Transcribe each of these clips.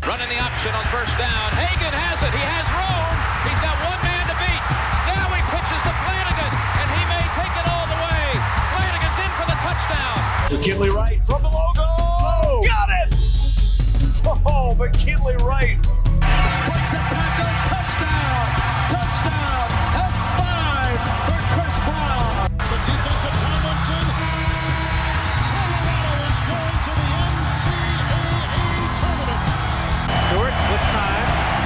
Running the option on first down. Hagan has it. He has room. He's got one man to beat. Now he pitches to Flanagan, and he may take it all the way. Flanagan's in for the touchdown. McKinley Wright from the logo. Oh, got it! Oh, McKinley Wright. Breaks a tackle. Touchdown. Touchdown. That's 5 for Chris Brown. The defensive Tomlinson. Colorado is going to the NCAA tournament. Stewart with time.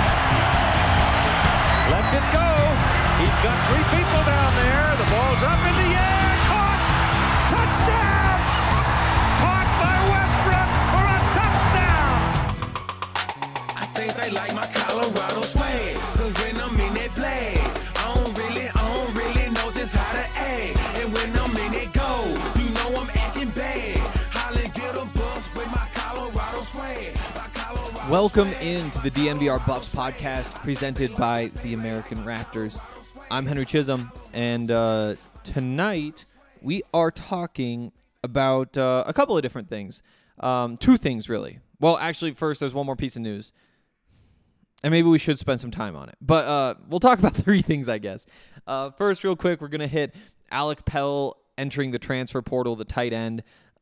Lets it go. He's got 3 people down there. The ball's up in the air. Caught. Touchdown. Caught by Westbrook for a touchdown. I think they like my Colorado swag. Cause when I'm in that play, I don't really know just how to act. And when I'm in it go, you know I'm acting bad. Holly get a bus with my Colorado swag. Welcome into the DNVR Buffs podcast presented by the American Raptors. I'm Henry Chisholm, and tonight we are talking about a couple of different things. 2 things, really. Well, actually, first, there's one more piece of news, and maybe we should spend some time on it. But we'll talk about 3 things, I guess. First, real quick, we're going to hit Alec Pell entering the transfer portal, the tight end.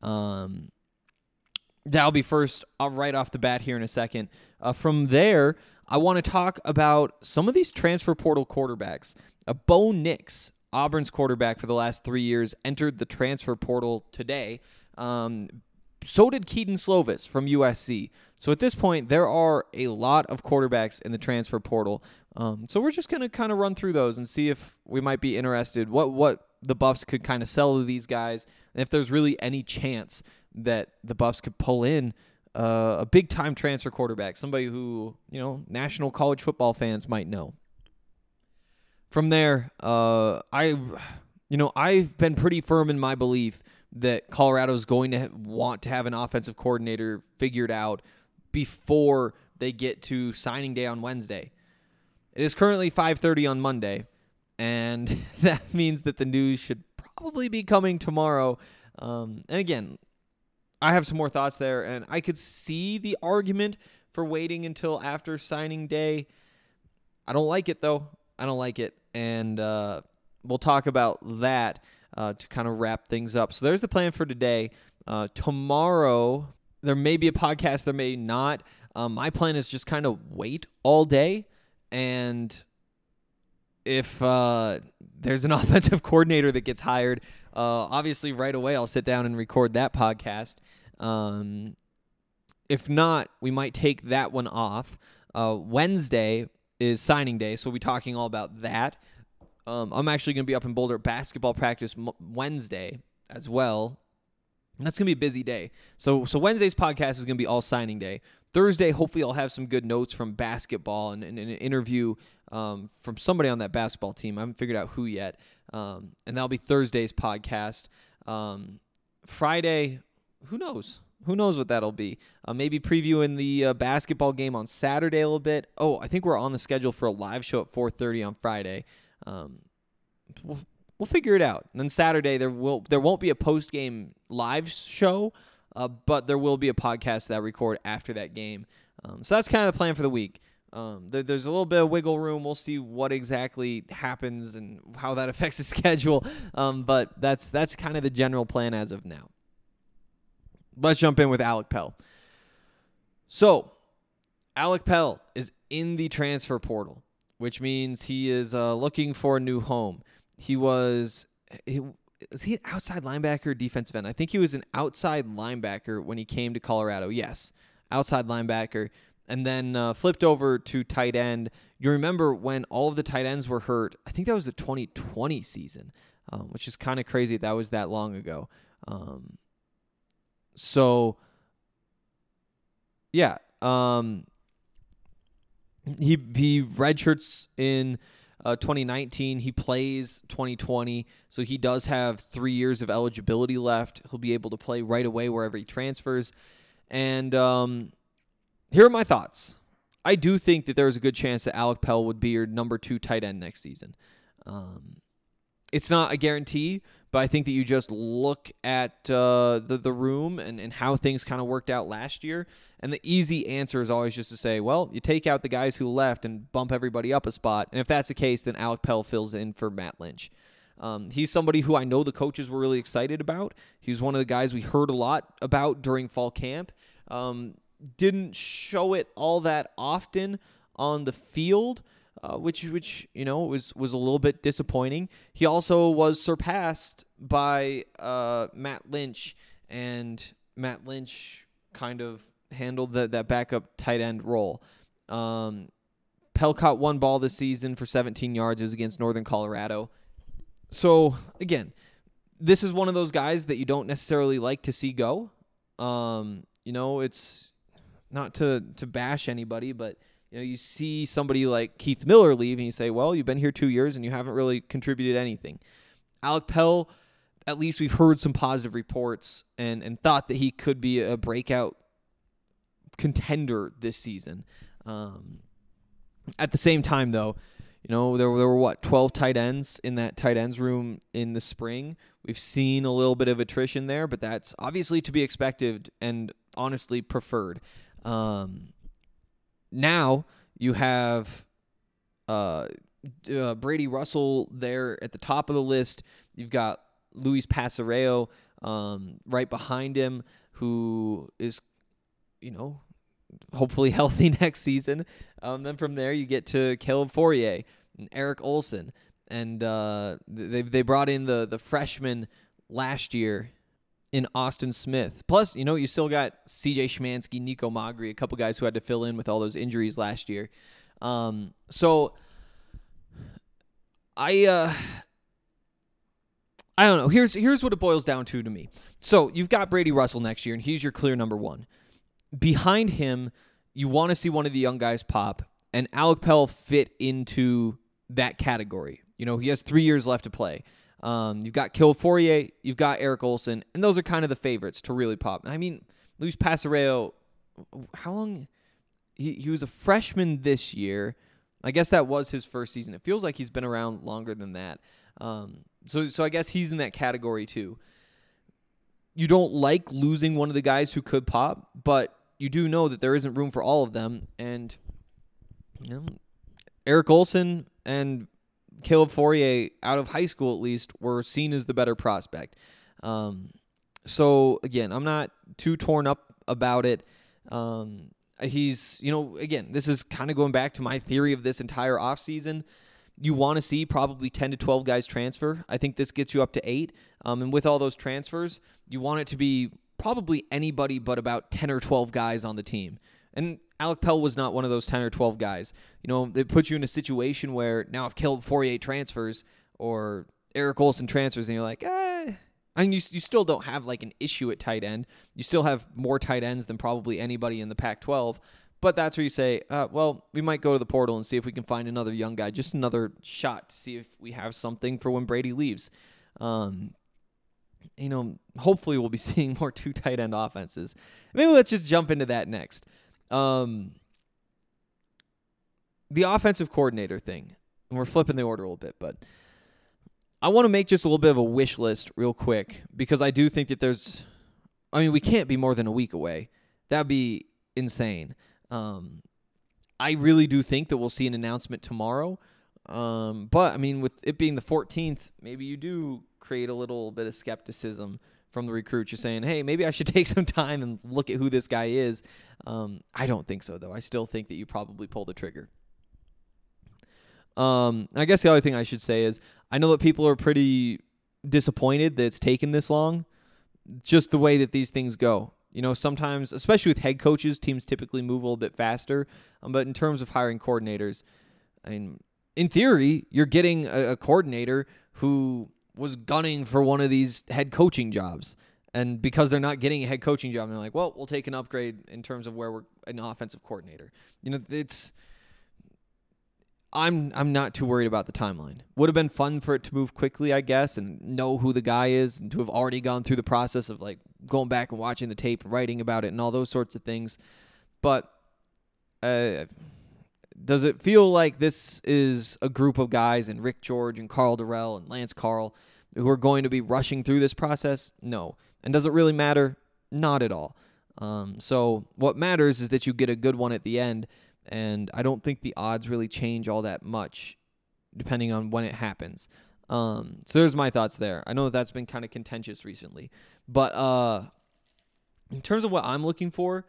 That'll be first right off the bat here in a second. From there, I want to talk about some of these transfer portal quarterbacks. Bo Nix, Auburn's quarterback for the last 3 years, entered the transfer portal today. So did Keaton Slovis from USC. So at this point, there are a lot of quarterbacks in the transfer portal. So we're just going to kind of run through those and see if we might be interested, what the Buffs could kind of sell to these guys, and if there's really any chance that the Buffs could pull in a big-time transfer quarterback, somebody who, national college football fans might know. From there, I've been pretty firm in my belief that Colorado is going to want to have an offensive coordinator figured out before they get to signing day on Wednesday. It is currently 5:30 on Monday, and that means that the news should probably be coming tomorrow. And again, I have some more thoughts there, and I could see the argument for waiting until after signing day. I don't like it, though. I don't like it, and we'll talk about that to kind of wrap things up. So there's the plan for today. Tomorrow, there may be a podcast, there may not. My plan is just kind of wait all day, and if there's an offensive coordinator that gets hired, obviously right away I'll sit down and record that podcast. If not, we might take that one off. Wednesday is signing day, so we'll be talking all about that. I'm actually going to be up in Boulder at basketball practice Wednesday as well. And that's going to be a busy day. So Wednesday's podcast is going to be all signing day. Thursday, hopefully I'll have some good notes from basketball and an interview from somebody on that basketball team. I haven't figured out who yet. And that'll be Thursday's podcast. Friday, who knows? Who knows what that'll be? Maybe previewing the basketball game on Saturday a little bit. Oh, I think we're on the schedule for a live show at 4:30 on Friday. We'll figure it out. And then Saturday there won't be a post-game live show, but there will be a podcast that I record after that game. So that's kind of the plan for the week. There's a little bit of wiggle room. We'll see what exactly happens and how that affects the schedule. But that's kind of the general plan as of now. Let's jump in with Alec Pell. So, Alec Pell is in the transfer portal, which means he is looking for a new home. Is he an outside linebacker, defensive end? I think he was an outside linebacker when he came to Colorado. Yes, outside linebacker. And then flipped over to tight end. You remember when all of the tight ends were hurt? I think that was the 2020 season, which is kind of crazy that was that long ago. So, yeah, he redshirts in 2019. He plays 2020, so he does have 3 years of eligibility left. He'll be able to play right away wherever he transfers. And here are my thoughts. I do think that there's a good chance that Alec Pell would be your number 2 tight end next season. It's not a guarantee, but I think that you just look at the room and how things kind of worked out last year, And the easy answer is always just to say, well, you take out the guys who left and bump everybody up a spot. And if that's the case, then Alec Pell fills in for Matt Lynch. He's somebody who I know the coaches were really excited about. He was one of the guys we heard a lot about during fall camp. Didn't show it all that often on the field, which was a little bit disappointing. He also was surpassed by Matt Lynch, and Matt Lynch kind of handled that backup tight end role. Pell caught one ball this season for 17 yards. It was against Northern Colorado. So, again, this is one of those guys that you don't necessarily like to see go. It's not to bash anybody, but you see somebody like Keith Miller leave and you say, well, you've been here 2 years and you haven't really contributed anything. Alec Pell, at least we've heard some positive reports and thought that he could be a breakout contender this season. At the same time, though, there were 12 tight ends in that tight ends room in the spring. We've seen a little bit of attrition there, but that's obviously to be expected and honestly preferred. Now you have Brady Russell there at the top of the list. You've got Luis Passareo right behind him, who is, hopefully healthy next season. Then from there you get to Caleb Fourier and Eric Olson, and they brought in the freshman last year in Austin Smith. Plus, you still got C.J. Szymanski, Nico Magri, a couple guys who had to fill in with all those injuries last year. So I don't know. Here's what it boils down to me. So you've got Brady Russell next year, and he's your clear number one. Behind him, you want to see one of the young guys pop, and Alec Pell fit into that category. He has 3 years left to play. You've got Caleb Fourier, you've got Eric Olson, and those are kind of the favorites to really pop. I mean, Luis Passareo, how long? He was a freshman this year. I guess that was his first season. It feels like he's been around longer than that. So I guess he's in that category too. You don't like losing one of the guys who could pop, but you do know that there isn't room for all of them. And Eric Olson and Caleb Fourier, out of high school at least, were seen as the better prospect. So again, I'm not too torn up about it. He's, again, this is kind of going back to my theory of this entire offseason. You want to see probably 10 to 12 guys transfer. I think this gets you up to 8. And with all those transfers, you want it to be probably anybody but about 10 or 12 guys on the team. And Alec Pell was not one of those 10 or 12 guys. They put you in a situation where now if Caleb Fourier transfers or Eric Olson transfers and you're like, I mean, you still don't have like an issue at tight end. You still have more tight ends than probably anybody in the Pac-12. But that's where you say, well, we might go to the portal and see if we can find another young guy, just another shot to see if we have something for when Brady leaves. Hopefully we'll be seeing more 2 tight end offenses. Maybe let's just jump into that next. The offensive coordinator thing, and we're flipping the order a little bit, but I want to make just a little bit of a wish list real quick, because I do think that we can't be more than a week away. That'd be insane. I really do think that we'll see an announcement tomorrow. But, I mean, with it being the 14th, maybe you do create a little bit of skepticism from the recruits. You're saying, hey, maybe I should take some time and look at who this guy is. I don't think so, though. I still think that you probably pull the trigger. I guess the other thing I should say is I know that people are pretty disappointed that it's taken this long. Just the way that these things go. Sometimes, especially with head coaches, teams typically move a little bit faster. But in terms of hiring coordinators, I mean, in theory, you're getting a coordinator who was gunning for one of these head coaching jobs. And because they're not getting a head coaching job, they're like, well, we'll take an upgrade in terms of where we're an offensive coordinator. I'm not too worried about the timeline. Would have been fun for it to move quickly, I guess, and know who the guy is, and to have already gone through the process of like going back and watching the tape, writing about it, and all those sorts of things. But does it feel like this is a group of guys, and Rick George and Carl Durrell and Lance Carl, who are going to be rushing through this process? No. And does it really matter? Not at all. So what matters is that you get a good one at the end, and I don't think the odds really change all that much depending on when it happens. So there's my thoughts there. I know that's been kind of contentious recently. But in terms of what I'm looking for,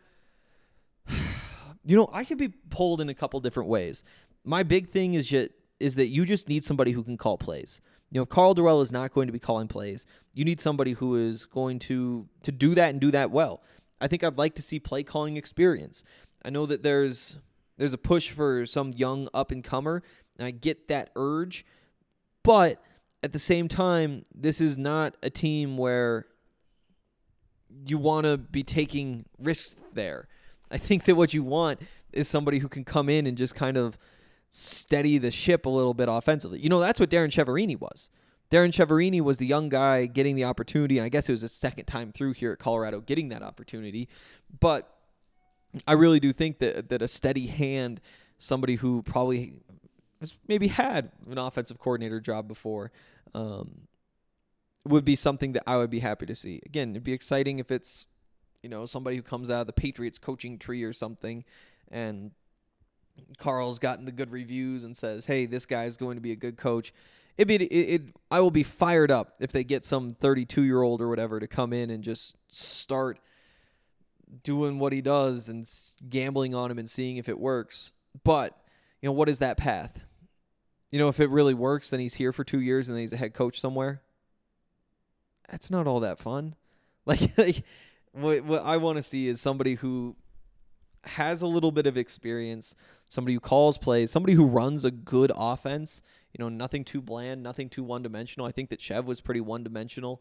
I could be pulled in a couple different ways. My big thing is that you just need somebody who can call plays. If Karl Dorrell is not going to be calling plays, you need somebody who is going to do that and do that well. I think I'd like to see play calling experience. I know that there's a push for some young up-and-comer, and I get that urge. But at the same time, this is not a team where you want to be taking risks there. I think that what you want is somebody who can come in and just kind of steady the ship a little bit offensively. That's what Darren Chiaverini was. Darren Chiaverini was the young guy getting the opportunity, and I guess it was his second time through here at Colorado getting that opportunity. But I really do think that a steady hand, somebody who probably has maybe had an offensive coordinator job before, would be something that I would be happy to see. Again, it'd be exciting if it's somebody who comes out of the Patriots coaching tree or something, and Carl's gotten the good reviews and says, hey, this guy's going to be a good coach. I will be fired up if they get some 32-year-old or whatever to come in and just start doing what he does and gambling on him and seeing if it works. But, what is that path? If it really works, then he's here for 2 years and then he's a head coach somewhere. That's not all that fun. What I want to see is somebody who has a little bit of experience, somebody who calls plays, somebody who runs a good offense, nothing too bland, nothing too one-dimensional. I think that Chev was pretty one-dimensional.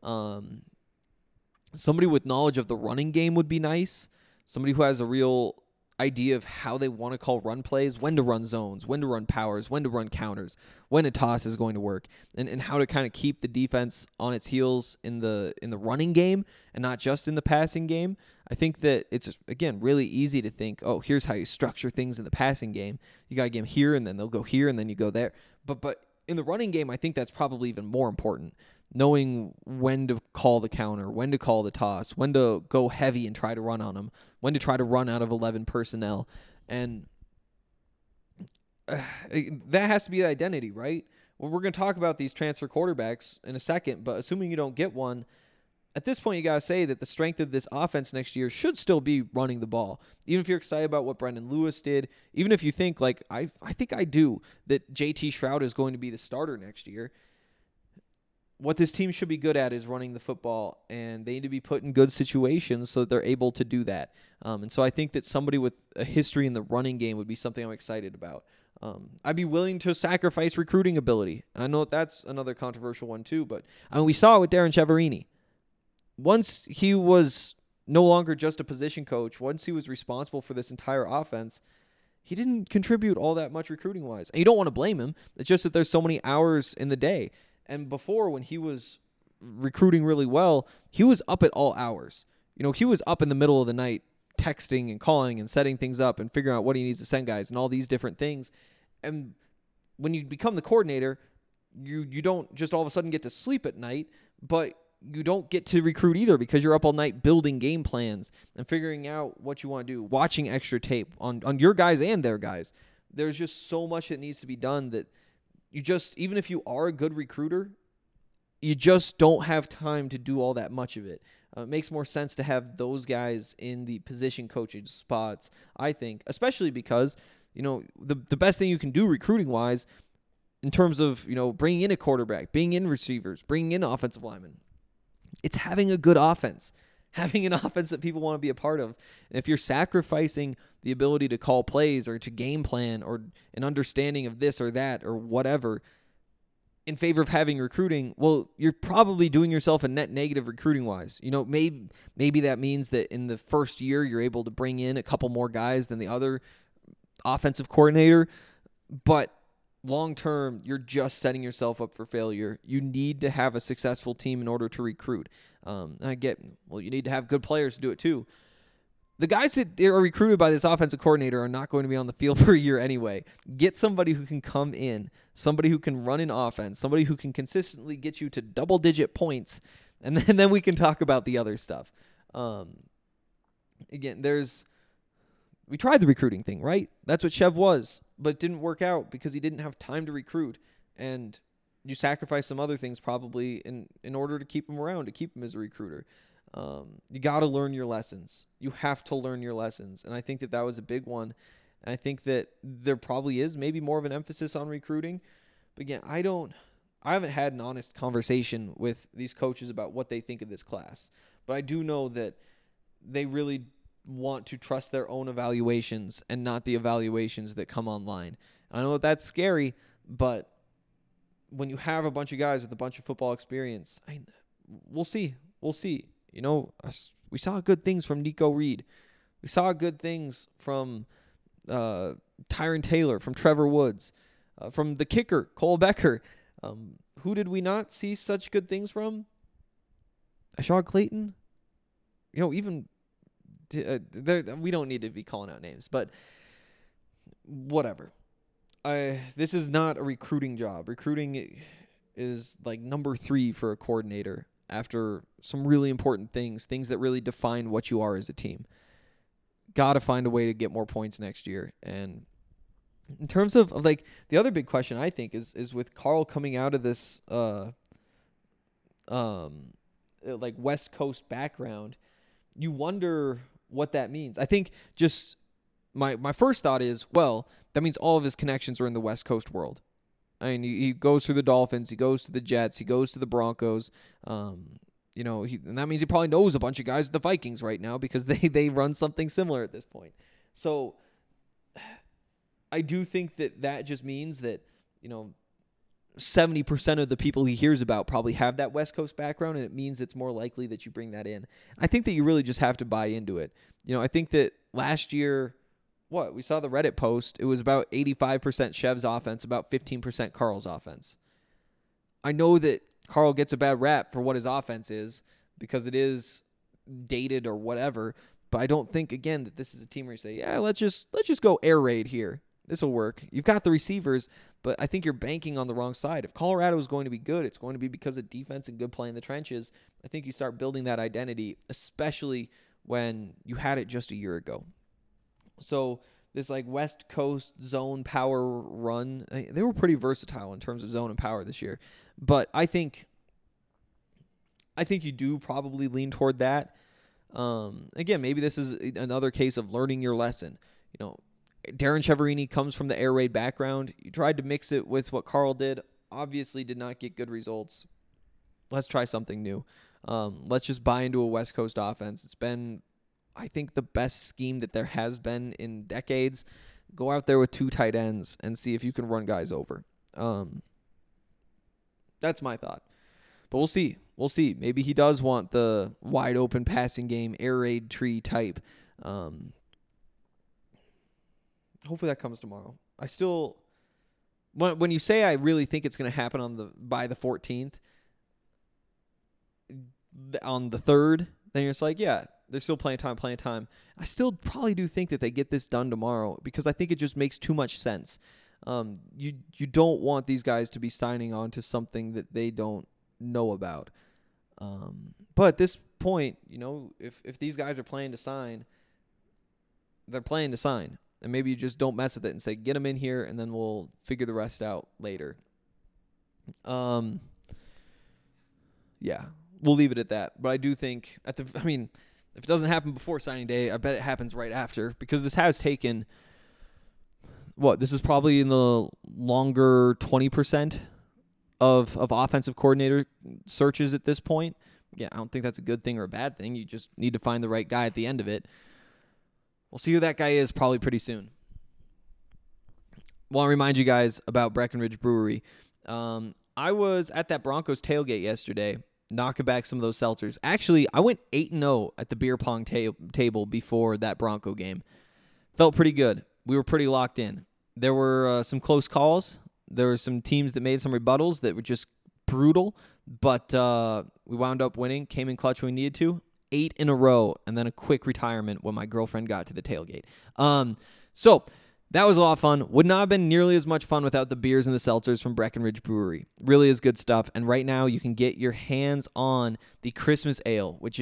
Somebody with knowledge of the running game would be nice. Somebody who has a real idea of how they want to call run plays, when to run zones, when to run powers, when to run counters, when a toss is going to work, and how to kind of keep the defense on its heels in the running game and not just in the passing game. I think that it's, again, really easy to think, oh, here's how you structure things in the passing game. You got to get them here, and then they'll go here, and then you go there. But in the running game, I think that's probably even more important, knowing when to call the counter, when to call the toss, when to go heavy and try to run on them, when to try to run out of 11 personnel. And that has to be the identity, right? Well, we're going to talk about these transfer quarterbacks in a second, but assuming you don't get one, at this point, you got to say that the strength of this offense next year should still be running the ball. Even if you're excited about what Brendan Lewis did, even if you think, like I think I do, that JT Shroud is going to be the starter next year, what this team should be good at is running the football, and they need to be put in good situations so that they're able to do that. And so I think that somebody with a history in the running game would be something I'm excited about. I'd be willing to sacrifice recruiting ability. I know that's another controversial one too, but we saw it with Darren Chiaverini. Once he was no longer just a position coach, once he was responsible for this entire offense, he didn't contribute all that much recruiting-wise. And you don't want to blame him. It's just that there's so many hours in the day. And before, when he was recruiting really well, he was up at all hours. He was up in the middle of the night texting and calling and setting things up and figuring out what he needs to send guys and all these different things. And when you become the coordinator, you don't just all of a sudden get to sleep at night, but you don't get to recruit either because you're up all night building game plans and figuring out what you want to do, watching extra tape on your guys and their guys. There's just so much that needs to be done that you just, even if you are a good recruiter, you just don't have time to do all that much of it. It makes more sense to have those guys in the position coaching spots, I think, especially because, the best thing you can do recruiting-wise in terms of, bringing in a quarterback, bringing in receivers, bringing in offensive linemen, it's having a good offense, having an offense that people want to be a part of. And if you're sacrificing the ability to call plays or to game plan or an understanding of this or that or whatever in favor of having recruiting, well, you're probably doing yourself a net negative recruiting-wise. Maybe that means that in the first year you're able to bring in a couple more guys than the other offensive coordinator, but long-term, you're just setting yourself up for failure. You need to have a successful team in order to recruit. You need to have good players to do it too. The guys that are recruited by this offensive coordinator are not going to be on the field for a year anyway. Get somebody who can come in, somebody who can run an offense, somebody who can consistently get you to double-digit points, and then we can talk about the other stuff. again, we tried the recruiting thing, right? That's what Chev was, but it didn't work out because he didn't have time to recruit, and you sacrifice some other things probably in order to keep him around, to keep him as a recruiter. You got to learn your lessons. You have to learn your lessons, and I think that was a big one. And I think that there probably is maybe more of an emphasis on recruiting. But again, I haven't had an honest conversation with these coaches about what they think of this class. But I do know that they really want to trust their own evaluations and not the evaluations that come online. I know that that's scary, but when you have a bunch of guys with a bunch of football experience, we'll see. We'll see. You know, we saw good things from Nico Reed. We saw good things from Tyron Taylor, from Trevor Woods, from the kicker, Cole Becker. Who did we not see such good things from? Ashad Clayton? You know, even we don't need to be calling out names, but whatever. This is not a recruiting job. Recruiting is like number 3 for a coordinator after some really important things that really define what you are as a team. Got to find a way to get more points next year. And in terms of like the other big question, I think is with Carl coming out of this like West Coast background, you wonder what that means. I think just my first thought is, well, that means all of his connections are in the West Coast world. I mean, he goes through the Dolphins, he goes to the Jets, he goes to the Broncos. You know, and that means he probably knows a bunch of guys at the Vikings right now because they run something similar at this point. So I do think that just means that, you know, 70% of the people he hears about probably have that West Coast background, and it means it's more likely that you bring that in. I think that you really just have to buy into it. You know, I think that last year, we saw the Reddit post, it was about 85% Chev's offense, about 15% Carl's offense. I know that Carl gets a bad rap for what his offense is because it is dated or whatever, but I don't think, again, that this is a team where you say, yeah, let's just go air raid here. This will work. You've got the receivers, but I think you're banking on the wrong side. If Colorado is going to be good, it's going to be because of defense and good play in the trenches. I think you start building that identity, especially when you had it just a year ago. So this like West Coast zone power run, they were pretty versatile in terms of zone and power this year. But I think you do probably lean toward that. Again, maybe this is another case of learning your lesson. You know, Darren Chiaverini comes from the air raid background. You tried to mix it with what Carl did. Obviously did not get good results. Let's try something new. Let's just buy into a West Coast offense. It's been, I think, the best scheme that there has been in decades. Go out there with 2 tight ends and see if you can run guys over. That's my thought. But we'll see. We'll see. Maybe he does want the wide open passing game, air raid tree type. Hopefully that comes tomorrow. I still, when you say I really think it's going to happen by the 14th, on the 3rd, then you're just like, yeah, there's still plenty of time. I still probably do think that they get this done tomorrow because I think it just makes too much sense. You don't want these guys to be signing on to something that they don't know about. But at this point, you know, if these guys are playing to sign, they're playing to sign. And maybe you just don't mess with it and say, get them in here, and then we'll figure the rest out later. Yeah, we'll leave it at that. But I do think, if it doesn't happen before signing day, I bet it happens right after. Because this has taken, this is probably in the longer 20% of offensive coordinator searches at this point. Yeah, I don't think that's a good thing or a bad thing. You just need to find the right guy at the end of it. We'll see who that guy is probably pretty soon. Want to remind you guys about Breckenridge Brewery. I was at that Broncos tailgate yesterday, knocking back some of those seltzers. Actually, I went 8-0 at the beer pong table before that Bronco game. Felt pretty good. We were pretty locked in. There were some close calls. There were some teams that made some rebuttals that were just brutal, but we wound up winning, came in clutch when we needed to. 8 in a row, and then a quick retirement when my girlfriend got to the tailgate. So that was a lot of fun. Would not have been nearly as much fun without the beers and the seltzers from Breckenridge Brewery. Really is good stuff. And right now you can get your hands on the Christmas Ale, which is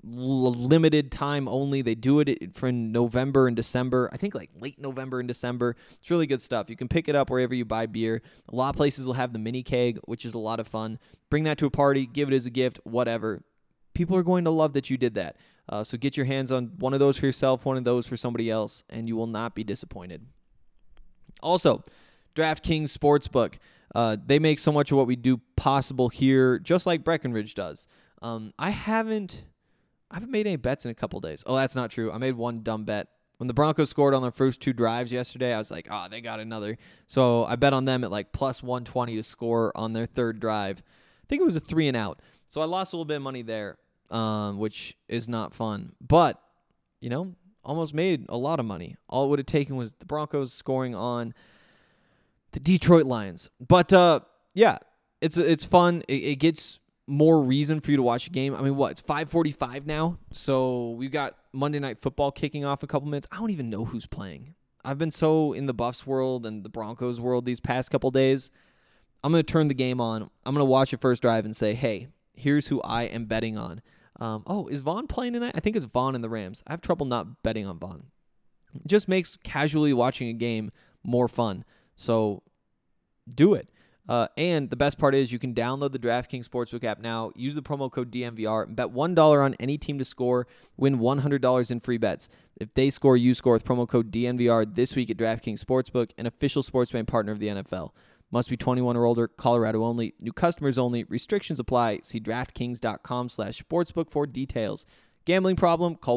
limited time only. They do it for November and December. I think like late November and December. It's really good stuff. You can pick it up wherever you buy beer. A lot of places will have the mini keg, which is a lot of fun. Bring that to a party, give it as a gift, whatever. People are going to love that you did that. So get your hands on one of those for yourself, one of those for somebody else, and you will not be disappointed. Also, DraftKings Sportsbook. They make so much of what we do possible here, just like Breckenridge does. I haven't made any bets in a couple days. Oh, that's not true. I made one dumb bet. When the Broncos scored on their first 2 drives yesterday, I was like, they got another. So I bet on them at like plus 120 to score on their 3rd drive. I think it was a 3 and out. So I lost a little bit of money there, which is not fun. But, almost made a lot of money. All it would have taken was the Broncos scoring on the Detroit Lions. But, yeah, it's fun. It gets more reason for you to watch a game. I mean, it's 5:45 now, so we've got Monday Night Football kicking off in a couple minutes. I don't even know who's playing. I've been so in the Buffs world and the Broncos world these past couple days. I'm going to turn the game on. I'm going to watch the first drive and say, hey, here's who I am betting on. Is Vaughn playing tonight? I think it's Vaughn and the Rams. I have trouble not betting on Vaughn. It just makes casually watching a game more fun. So do it. And the best part is you can download the DraftKings Sportsbook app now, use the promo code DNVR, and bet $1 on any team to score, win $100 in free bets. If they score, you score with promo code DNVR this week at DraftKings Sportsbook, an official sports betting partner of the NFL. Must be 21 or older, Colorado only, new customers only, restrictions apply. See DraftKings.com/sportsbook for details. Gambling problem? Call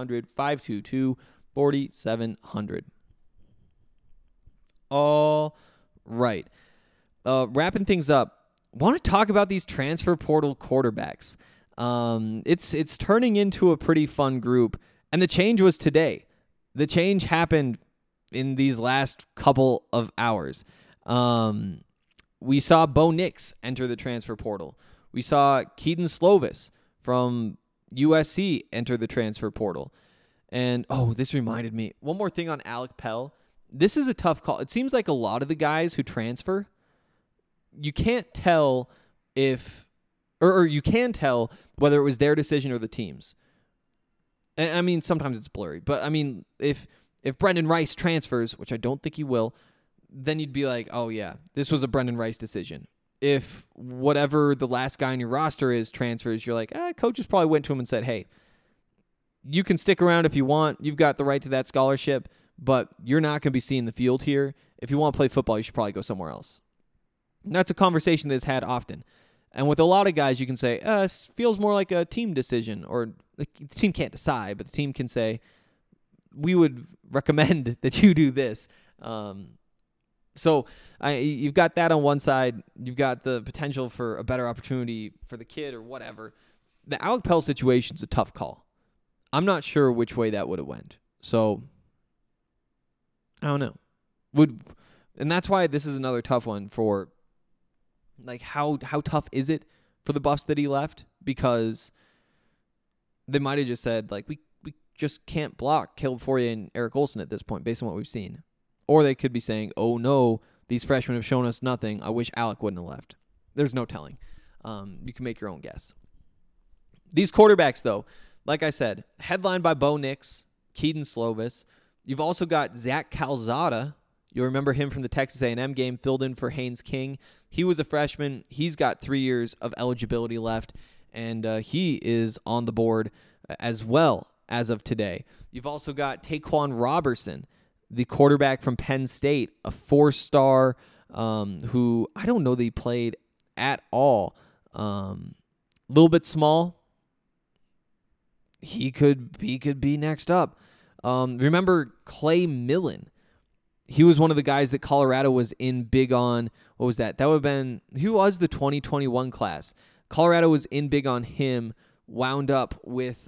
1-800-522-4700. All right. Wrapping things up, want to talk about these transfer portal quarterbacks. It's turning into a pretty fun group, and the change was today. The change happened in these last couple of hours. We saw Bo Nix enter the transfer portal. We saw Keaton Slovis from USC enter the transfer portal. And, this reminded me. One more thing on Alec Pell. This is a tough call. It seems like a lot of the guys who transfer, you can't tell or you can tell whether it was their decision or the team's. And I mean, sometimes it's blurry. But, I mean, if Brendan Rice transfers, which I don't think he will, then you'd be like, oh, yeah, this was a Brendan Rice decision. If whatever the last guy on your roster is transfers, you're like, coaches probably went to him and said, hey, you can stick around if you want. You've got the right to that scholarship, but you're not going to be seeing the field here. If you want to play football, you should probably go somewhere else. And that's a conversation that's had often. And with a lot of guys, you can say, it feels more like a team decision, or the team can't decide, but the team can say, we would recommend that you do this. So you've got that on one side. You've got the potential for a better opportunity for the kid or whatever. The Alec Pell situation's a tough call. I'm not sure which way that would have went. So I don't know. And that's why this is another tough one for, like, how tough is it for the Buffs that he left? Because they might have just said, like, we just can't block Caleb Fourier and Eric Olsen at this point based on what we've seen. Or they could be saying, oh, no, these freshmen have shown us nothing. I wish Alec wouldn't have left. There's no telling. You can make your own guess. These quarterbacks, though, like I said, headlined by Bo Nix, Keaton Slovis. You've also got Zach Calzada. You'll remember him from the Texas A&M game, filled in for Haynes King. He was a freshman. He's got 3 years of eligibility left, and he is on the board as well as of today. You've also got Taquan Robertson, the quarterback from Penn State, a 4-star who I don't know that he played at all. A little bit small. He could be next up. Remember Clay Millen? He was one of the guys that Colorado was in big on. What was that? That would have been, he was the 2021 class. Colorado was in big on him, wound up with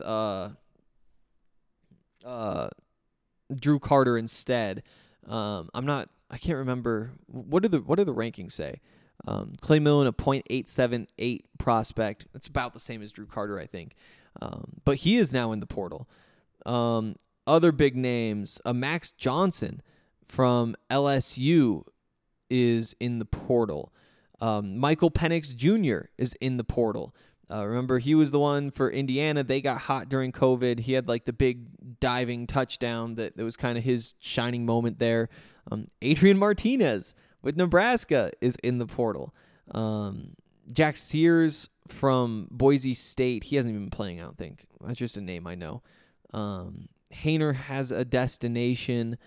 Drew Carter instead. I can't remember. What do the rankings say? Clay Millen, a .878 prospect. That's about the same as Drew Carter, I think. But he is now in the portal. Other big names, Max Johnson from LSU is in the portal. Michael Penix Jr. is in the portal. Remember, he was the one for Indiana. They got hot during COVID. He had like the big diving touchdown that was kind of his shining moment there. Adrian Martinez with Nebraska is in the portal. Jack Sears from Boise State. He hasn't even been playing, I don't think. That's just a name I know. Hainer has a destination.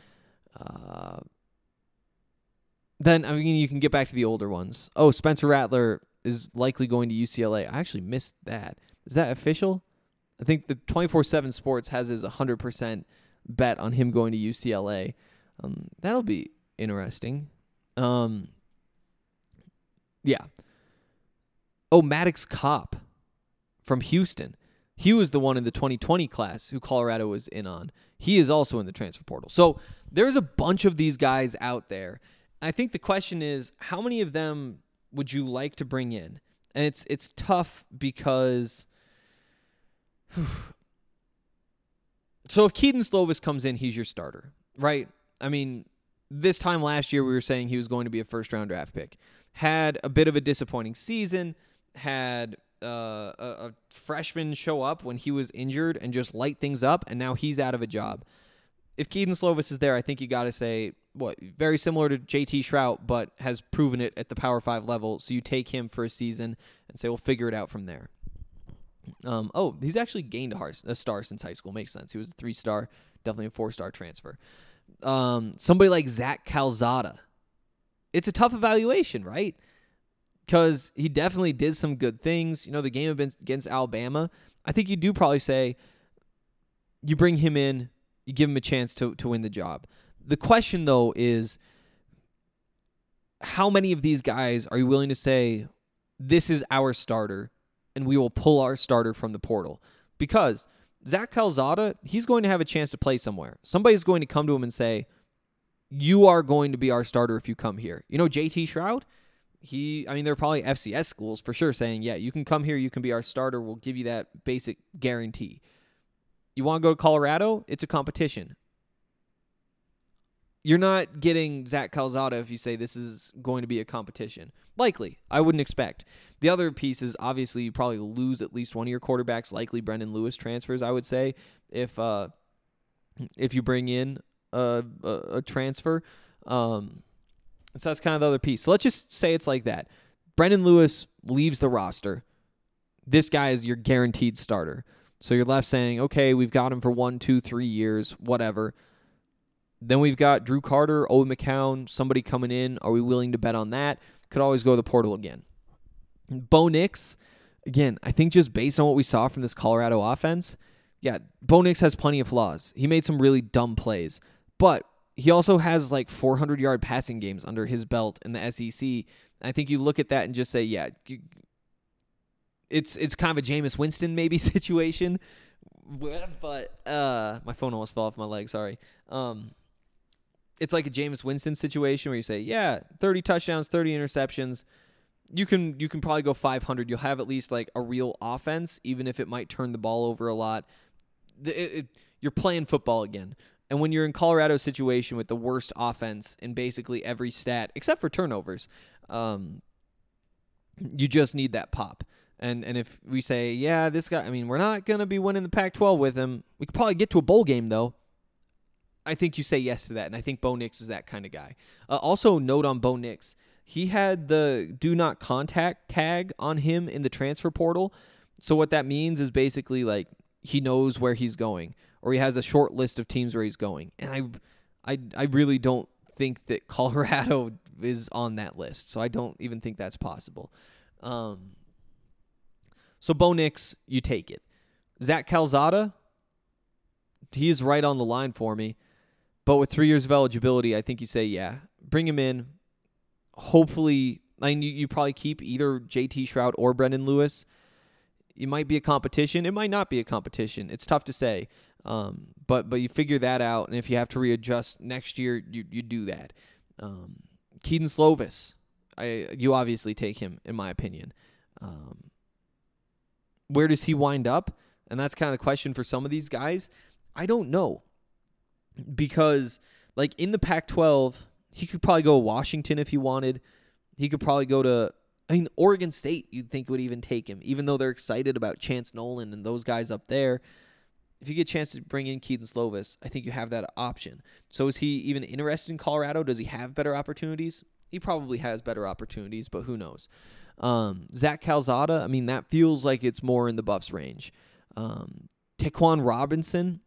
Then, I mean, you can get back to the older ones. Oh, Spencer Rattler is likely going to UCLA. I actually missed that. Is that official? I think the 24/7 Sports has his 100% bet on him going to UCLA. That'll be interesting. Yeah. Oh, Maddox Kopp from Houston. He was the one in the 2020 class who Colorado was in on. He is also in the transfer portal. So there's a bunch of these guys out there. I think the question is, how many of them would you like to bring in? And it's tough because so if Keaton Slovis comes in, he's your starter, right? I mean, this time last year we were saying he was going to be a first-round draft pick. Had a bit of a disappointing season, had a freshman show up when he was injured and just light things up, and now he's out of a job. If Keaton Slovis is there, I think you got to say, very similar to JT Shrout, but has proven it at the Power 5 level, so you take him for a season and say, we'll figure it out from there. He's actually gained a star since high school. Makes sense. He was a 3-star, definitely a 4-star transfer. Somebody like Zach Calzada. It's a tough evaluation, right? Because he definitely did some good things. You know, the game against Alabama, I think you do probably say you bring him in, you give him a chance to win the job. The question, though, is how many of these guys are you willing to say, this is our starter, and we will pull our starter from the portal? Because Zach Calzada, he's going to have a chance to play somewhere. Somebody's going to come to him and say, you are going to be our starter if you come here. You know, JT Shrout, there are probably FCS schools for sure saying, yeah, you can come here, you can be our starter, we'll give you that basic guarantee. You want to go to Colorado? It's a competition. You're not getting Zach Calzada if you say this is going to be a competition. Likely. I wouldn't expect. The other piece is obviously you probably lose at least one of your quarterbacks, likely Brendan Lewis transfers, I would say, if you bring in a transfer. So that's kind of the other piece. So let's just say it's like that. Brendan Lewis leaves the roster. This guy is your guaranteed starter. So you're left saying, okay, we've got him for 1, 2, 3 years, whatever. Then we've got Drew Carter, Owen McCown, somebody coming in. Are we willing to bet on that? Could always go to the portal again. Bo Nix, again, I think just based on what we saw from this Colorado offense, yeah, Bo Nix has plenty of flaws. He made some really dumb plays, but he also has like 400-yard passing games under his belt in the SEC. I think you look at that and just say, yeah, it's kind of a Jameis Winston maybe situation. But my phone almost fell off my leg, sorry. It's like a Jameis Winston situation where you say, yeah, 30 touchdowns, 30 interceptions. You can probably go 500. You'll have at least like a real offense, even if it might turn the ball over a lot. You're playing football again. And when you're in Colorado's situation with the worst offense in basically every stat, except for turnovers, you just need that pop. And if we say, yeah, this guy, we're not going to be winning the Pac-12 with him. We could probably get to a bowl game, though. I think you say yes to that, and I think Bo Nix is that kind of guy. Also, note on Bo Nix, he had the do not contact tag on him in the transfer portal. So what that means is basically like he knows where he's going, or he has a short list of teams where he's going. And I really don't think that Colorado is on that list, so I don't even think that's possible. So Bo Nix, you take it. Zach Calzada, he is right on the line for me. But with 3 years of eligibility, I think you say, yeah, bring him in. Hopefully, you probably keep either JT Shrout or Brendan Lewis. It might be a competition. It might not be a competition. It's tough to say. But you figure that out, and if you have to readjust next year, you do that. Keaton Slovis, you obviously take him, in my opinion. Where does he wind up? And that's kind of the question for some of these guys. I don't know. Because, in the Pac-12, he could probably go to Washington if he wanted. He could probably go to I mean, Oregon State, you'd think would even take him, even though they're excited about Chance Nolan and those guys up there. If you get a chance to bring in Keaton Slovis, I think you have that option. So is he even interested in Colorado? Does he have better opportunities? He probably has better opportunities, but who knows? Zach Calzada, I mean, that feels like it's more in the Buffs range. Taquan Robertson,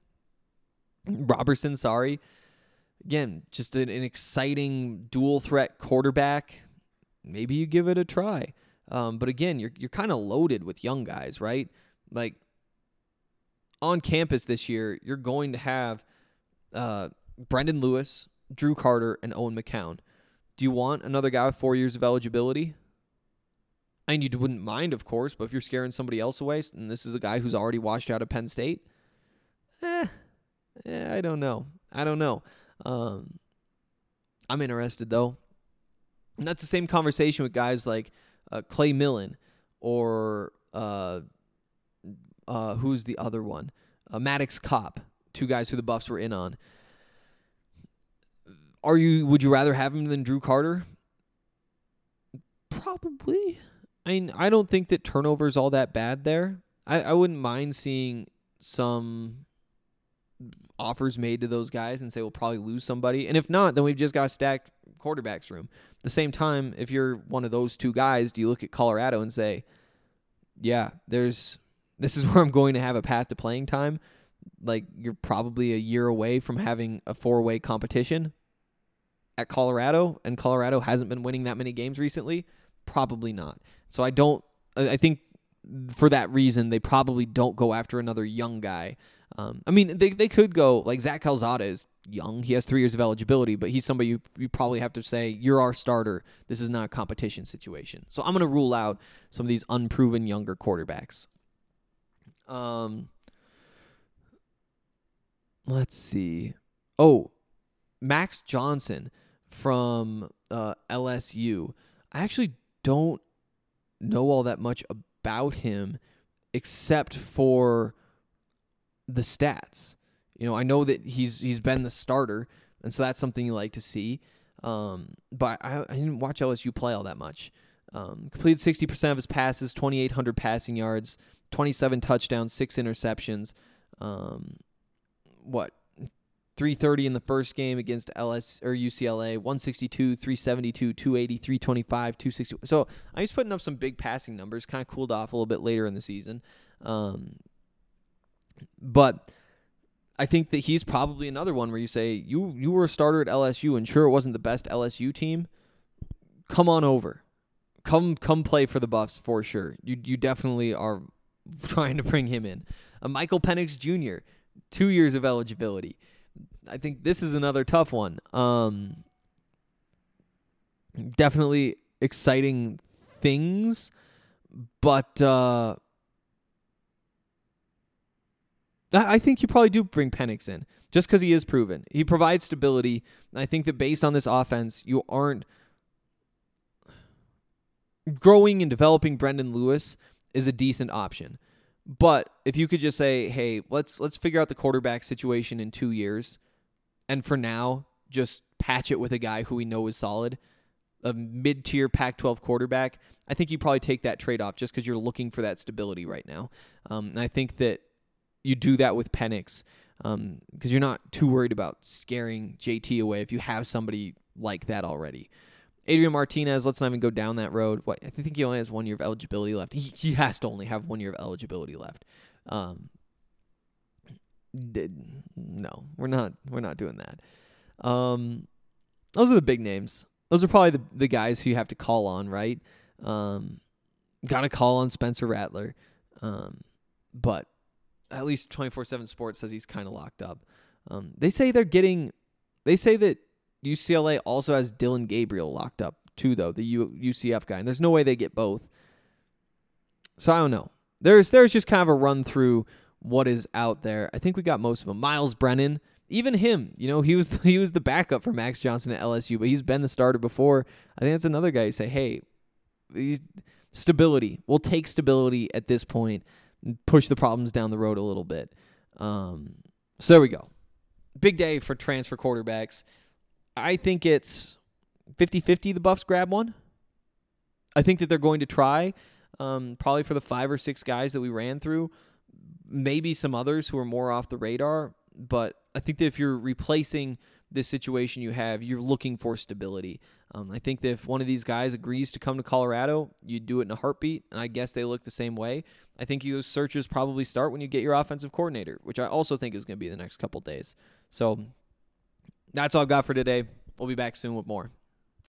again, just an exciting dual threat quarterback. Maybe you give it a try. But again, you're kind of loaded with young guys, right? Like on campus this year, you're going to have Brendan Lewis, Drew Carter, and Owen McCown. Do you want another guy with 4 years of eligibility? And you wouldn't mind, of course, but if you're scaring somebody else away, and this is a guy who's already washed out of Penn State, I don't know. I'm interested, though. And that's the same conversation with guys like Clay Millen or who's the other one? Maddox Kopp, two guys who the Buffs were in on. Would you rather have him than Drew Carter? Probably. I mean, I don't think that turnover is all that bad there. I wouldn't mind seeing some offers made to those guys and say we'll probably lose somebody. And if not, then we've just got a stacked quarterbacks room. At the same time, if you're one of those two guys, do you look at Colorado and say, yeah, this is where I'm going to have a path to playing time? Like, you're probably a year away from having a 4-way competition at Colorado, and Colorado hasn't been winning that many games recently. Probably not. So I think for that reason, they probably don't go after another young guy. I mean, they could go, like Zach Calzada is young. He has 3 years of eligibility, but he's somebody you probably have to say, you're our starter. This is not a competition situation. So I'm going to rule out some of these unproven younger quarterbacks. Let's see. Oh, Max Johnson from LSU. I actually don't know all that much about him except for the stats. You know, I know that he's been the starter, and so that's something you like to see. But I didn't watch LSU play all that much. Completed 60% of his passes, 2,800 passing yards, 27 touchdowns, 6 interceptions. 330 in the first game against UCLA, 162, 372, 280, 325, 260. So he's putting up some big passing numbers, kind of cooled off a little bit later in the season. But I think that he's probably another one where you say, you were a starter at LSU, and sure, it wasn't the best LSU team. Come on over. Come play for the Buffs for sure. You definitely are trying to bring him in. Michael Penix Jr., 2 years of eligibility. I think this is another tough one. Definitely exciting things, but I think you probably do bring Penix in just because he is proven. He provides stability. And I think that based on this offense, you aren't growing and developing Brendan Lewis is a decent option. But if you could just say, hey, let's figure out the quarterback situation in 2 years, and for now, just patch it with a guy who we know is solid, a mid-tier Pac-12 quarterback, I think you probably take that trade-off just because you're looking for that stability right now. And I think that you do that with Penix because you're not too worried about scaring JT away if you have somebody like that already. Adrian Martinez, let's not even go down that road. I think he only has 1 year of eligibility left. He has to only have 1 year of eligibility left. No, we're not doing that. Those are the big names. Those are probably the guys who you have to call on, right? Got to call on Spencer Rattler. But at least 24/7 Sports says he's kind of locked up. They say that UCLA also has Dylan Gabriel locked up too, though, the UCF guy. And there's no way they get both. So I don't know. There's just kind of a run through what is out there. I think we got most of them. Miles Brennan, even him, he was the backup for Max Johnson at LSU, but he's been the starter before. I think that's another guy you say, hey, stability. We'll take stability at this point and push the problems down the road a little bit. So there we go. Big day for transfer quarterbacks. I think it's 50-50 the Buffs grab one. I think that they're going to try, probably for the 5 or 6 guys that we ran through, maybe some others who are more off the radar. But I think that if you're replacing this situation you have, you're looking for stability. I think that if one of these guys agrees to come to Colorado, you do it in a heartbeat, and I guess they look the same way. I think those searches probably start when you get your offensive coordinator, which I also think is going to be the next couple days. So that's all I've got for today. We'll be back soon with more.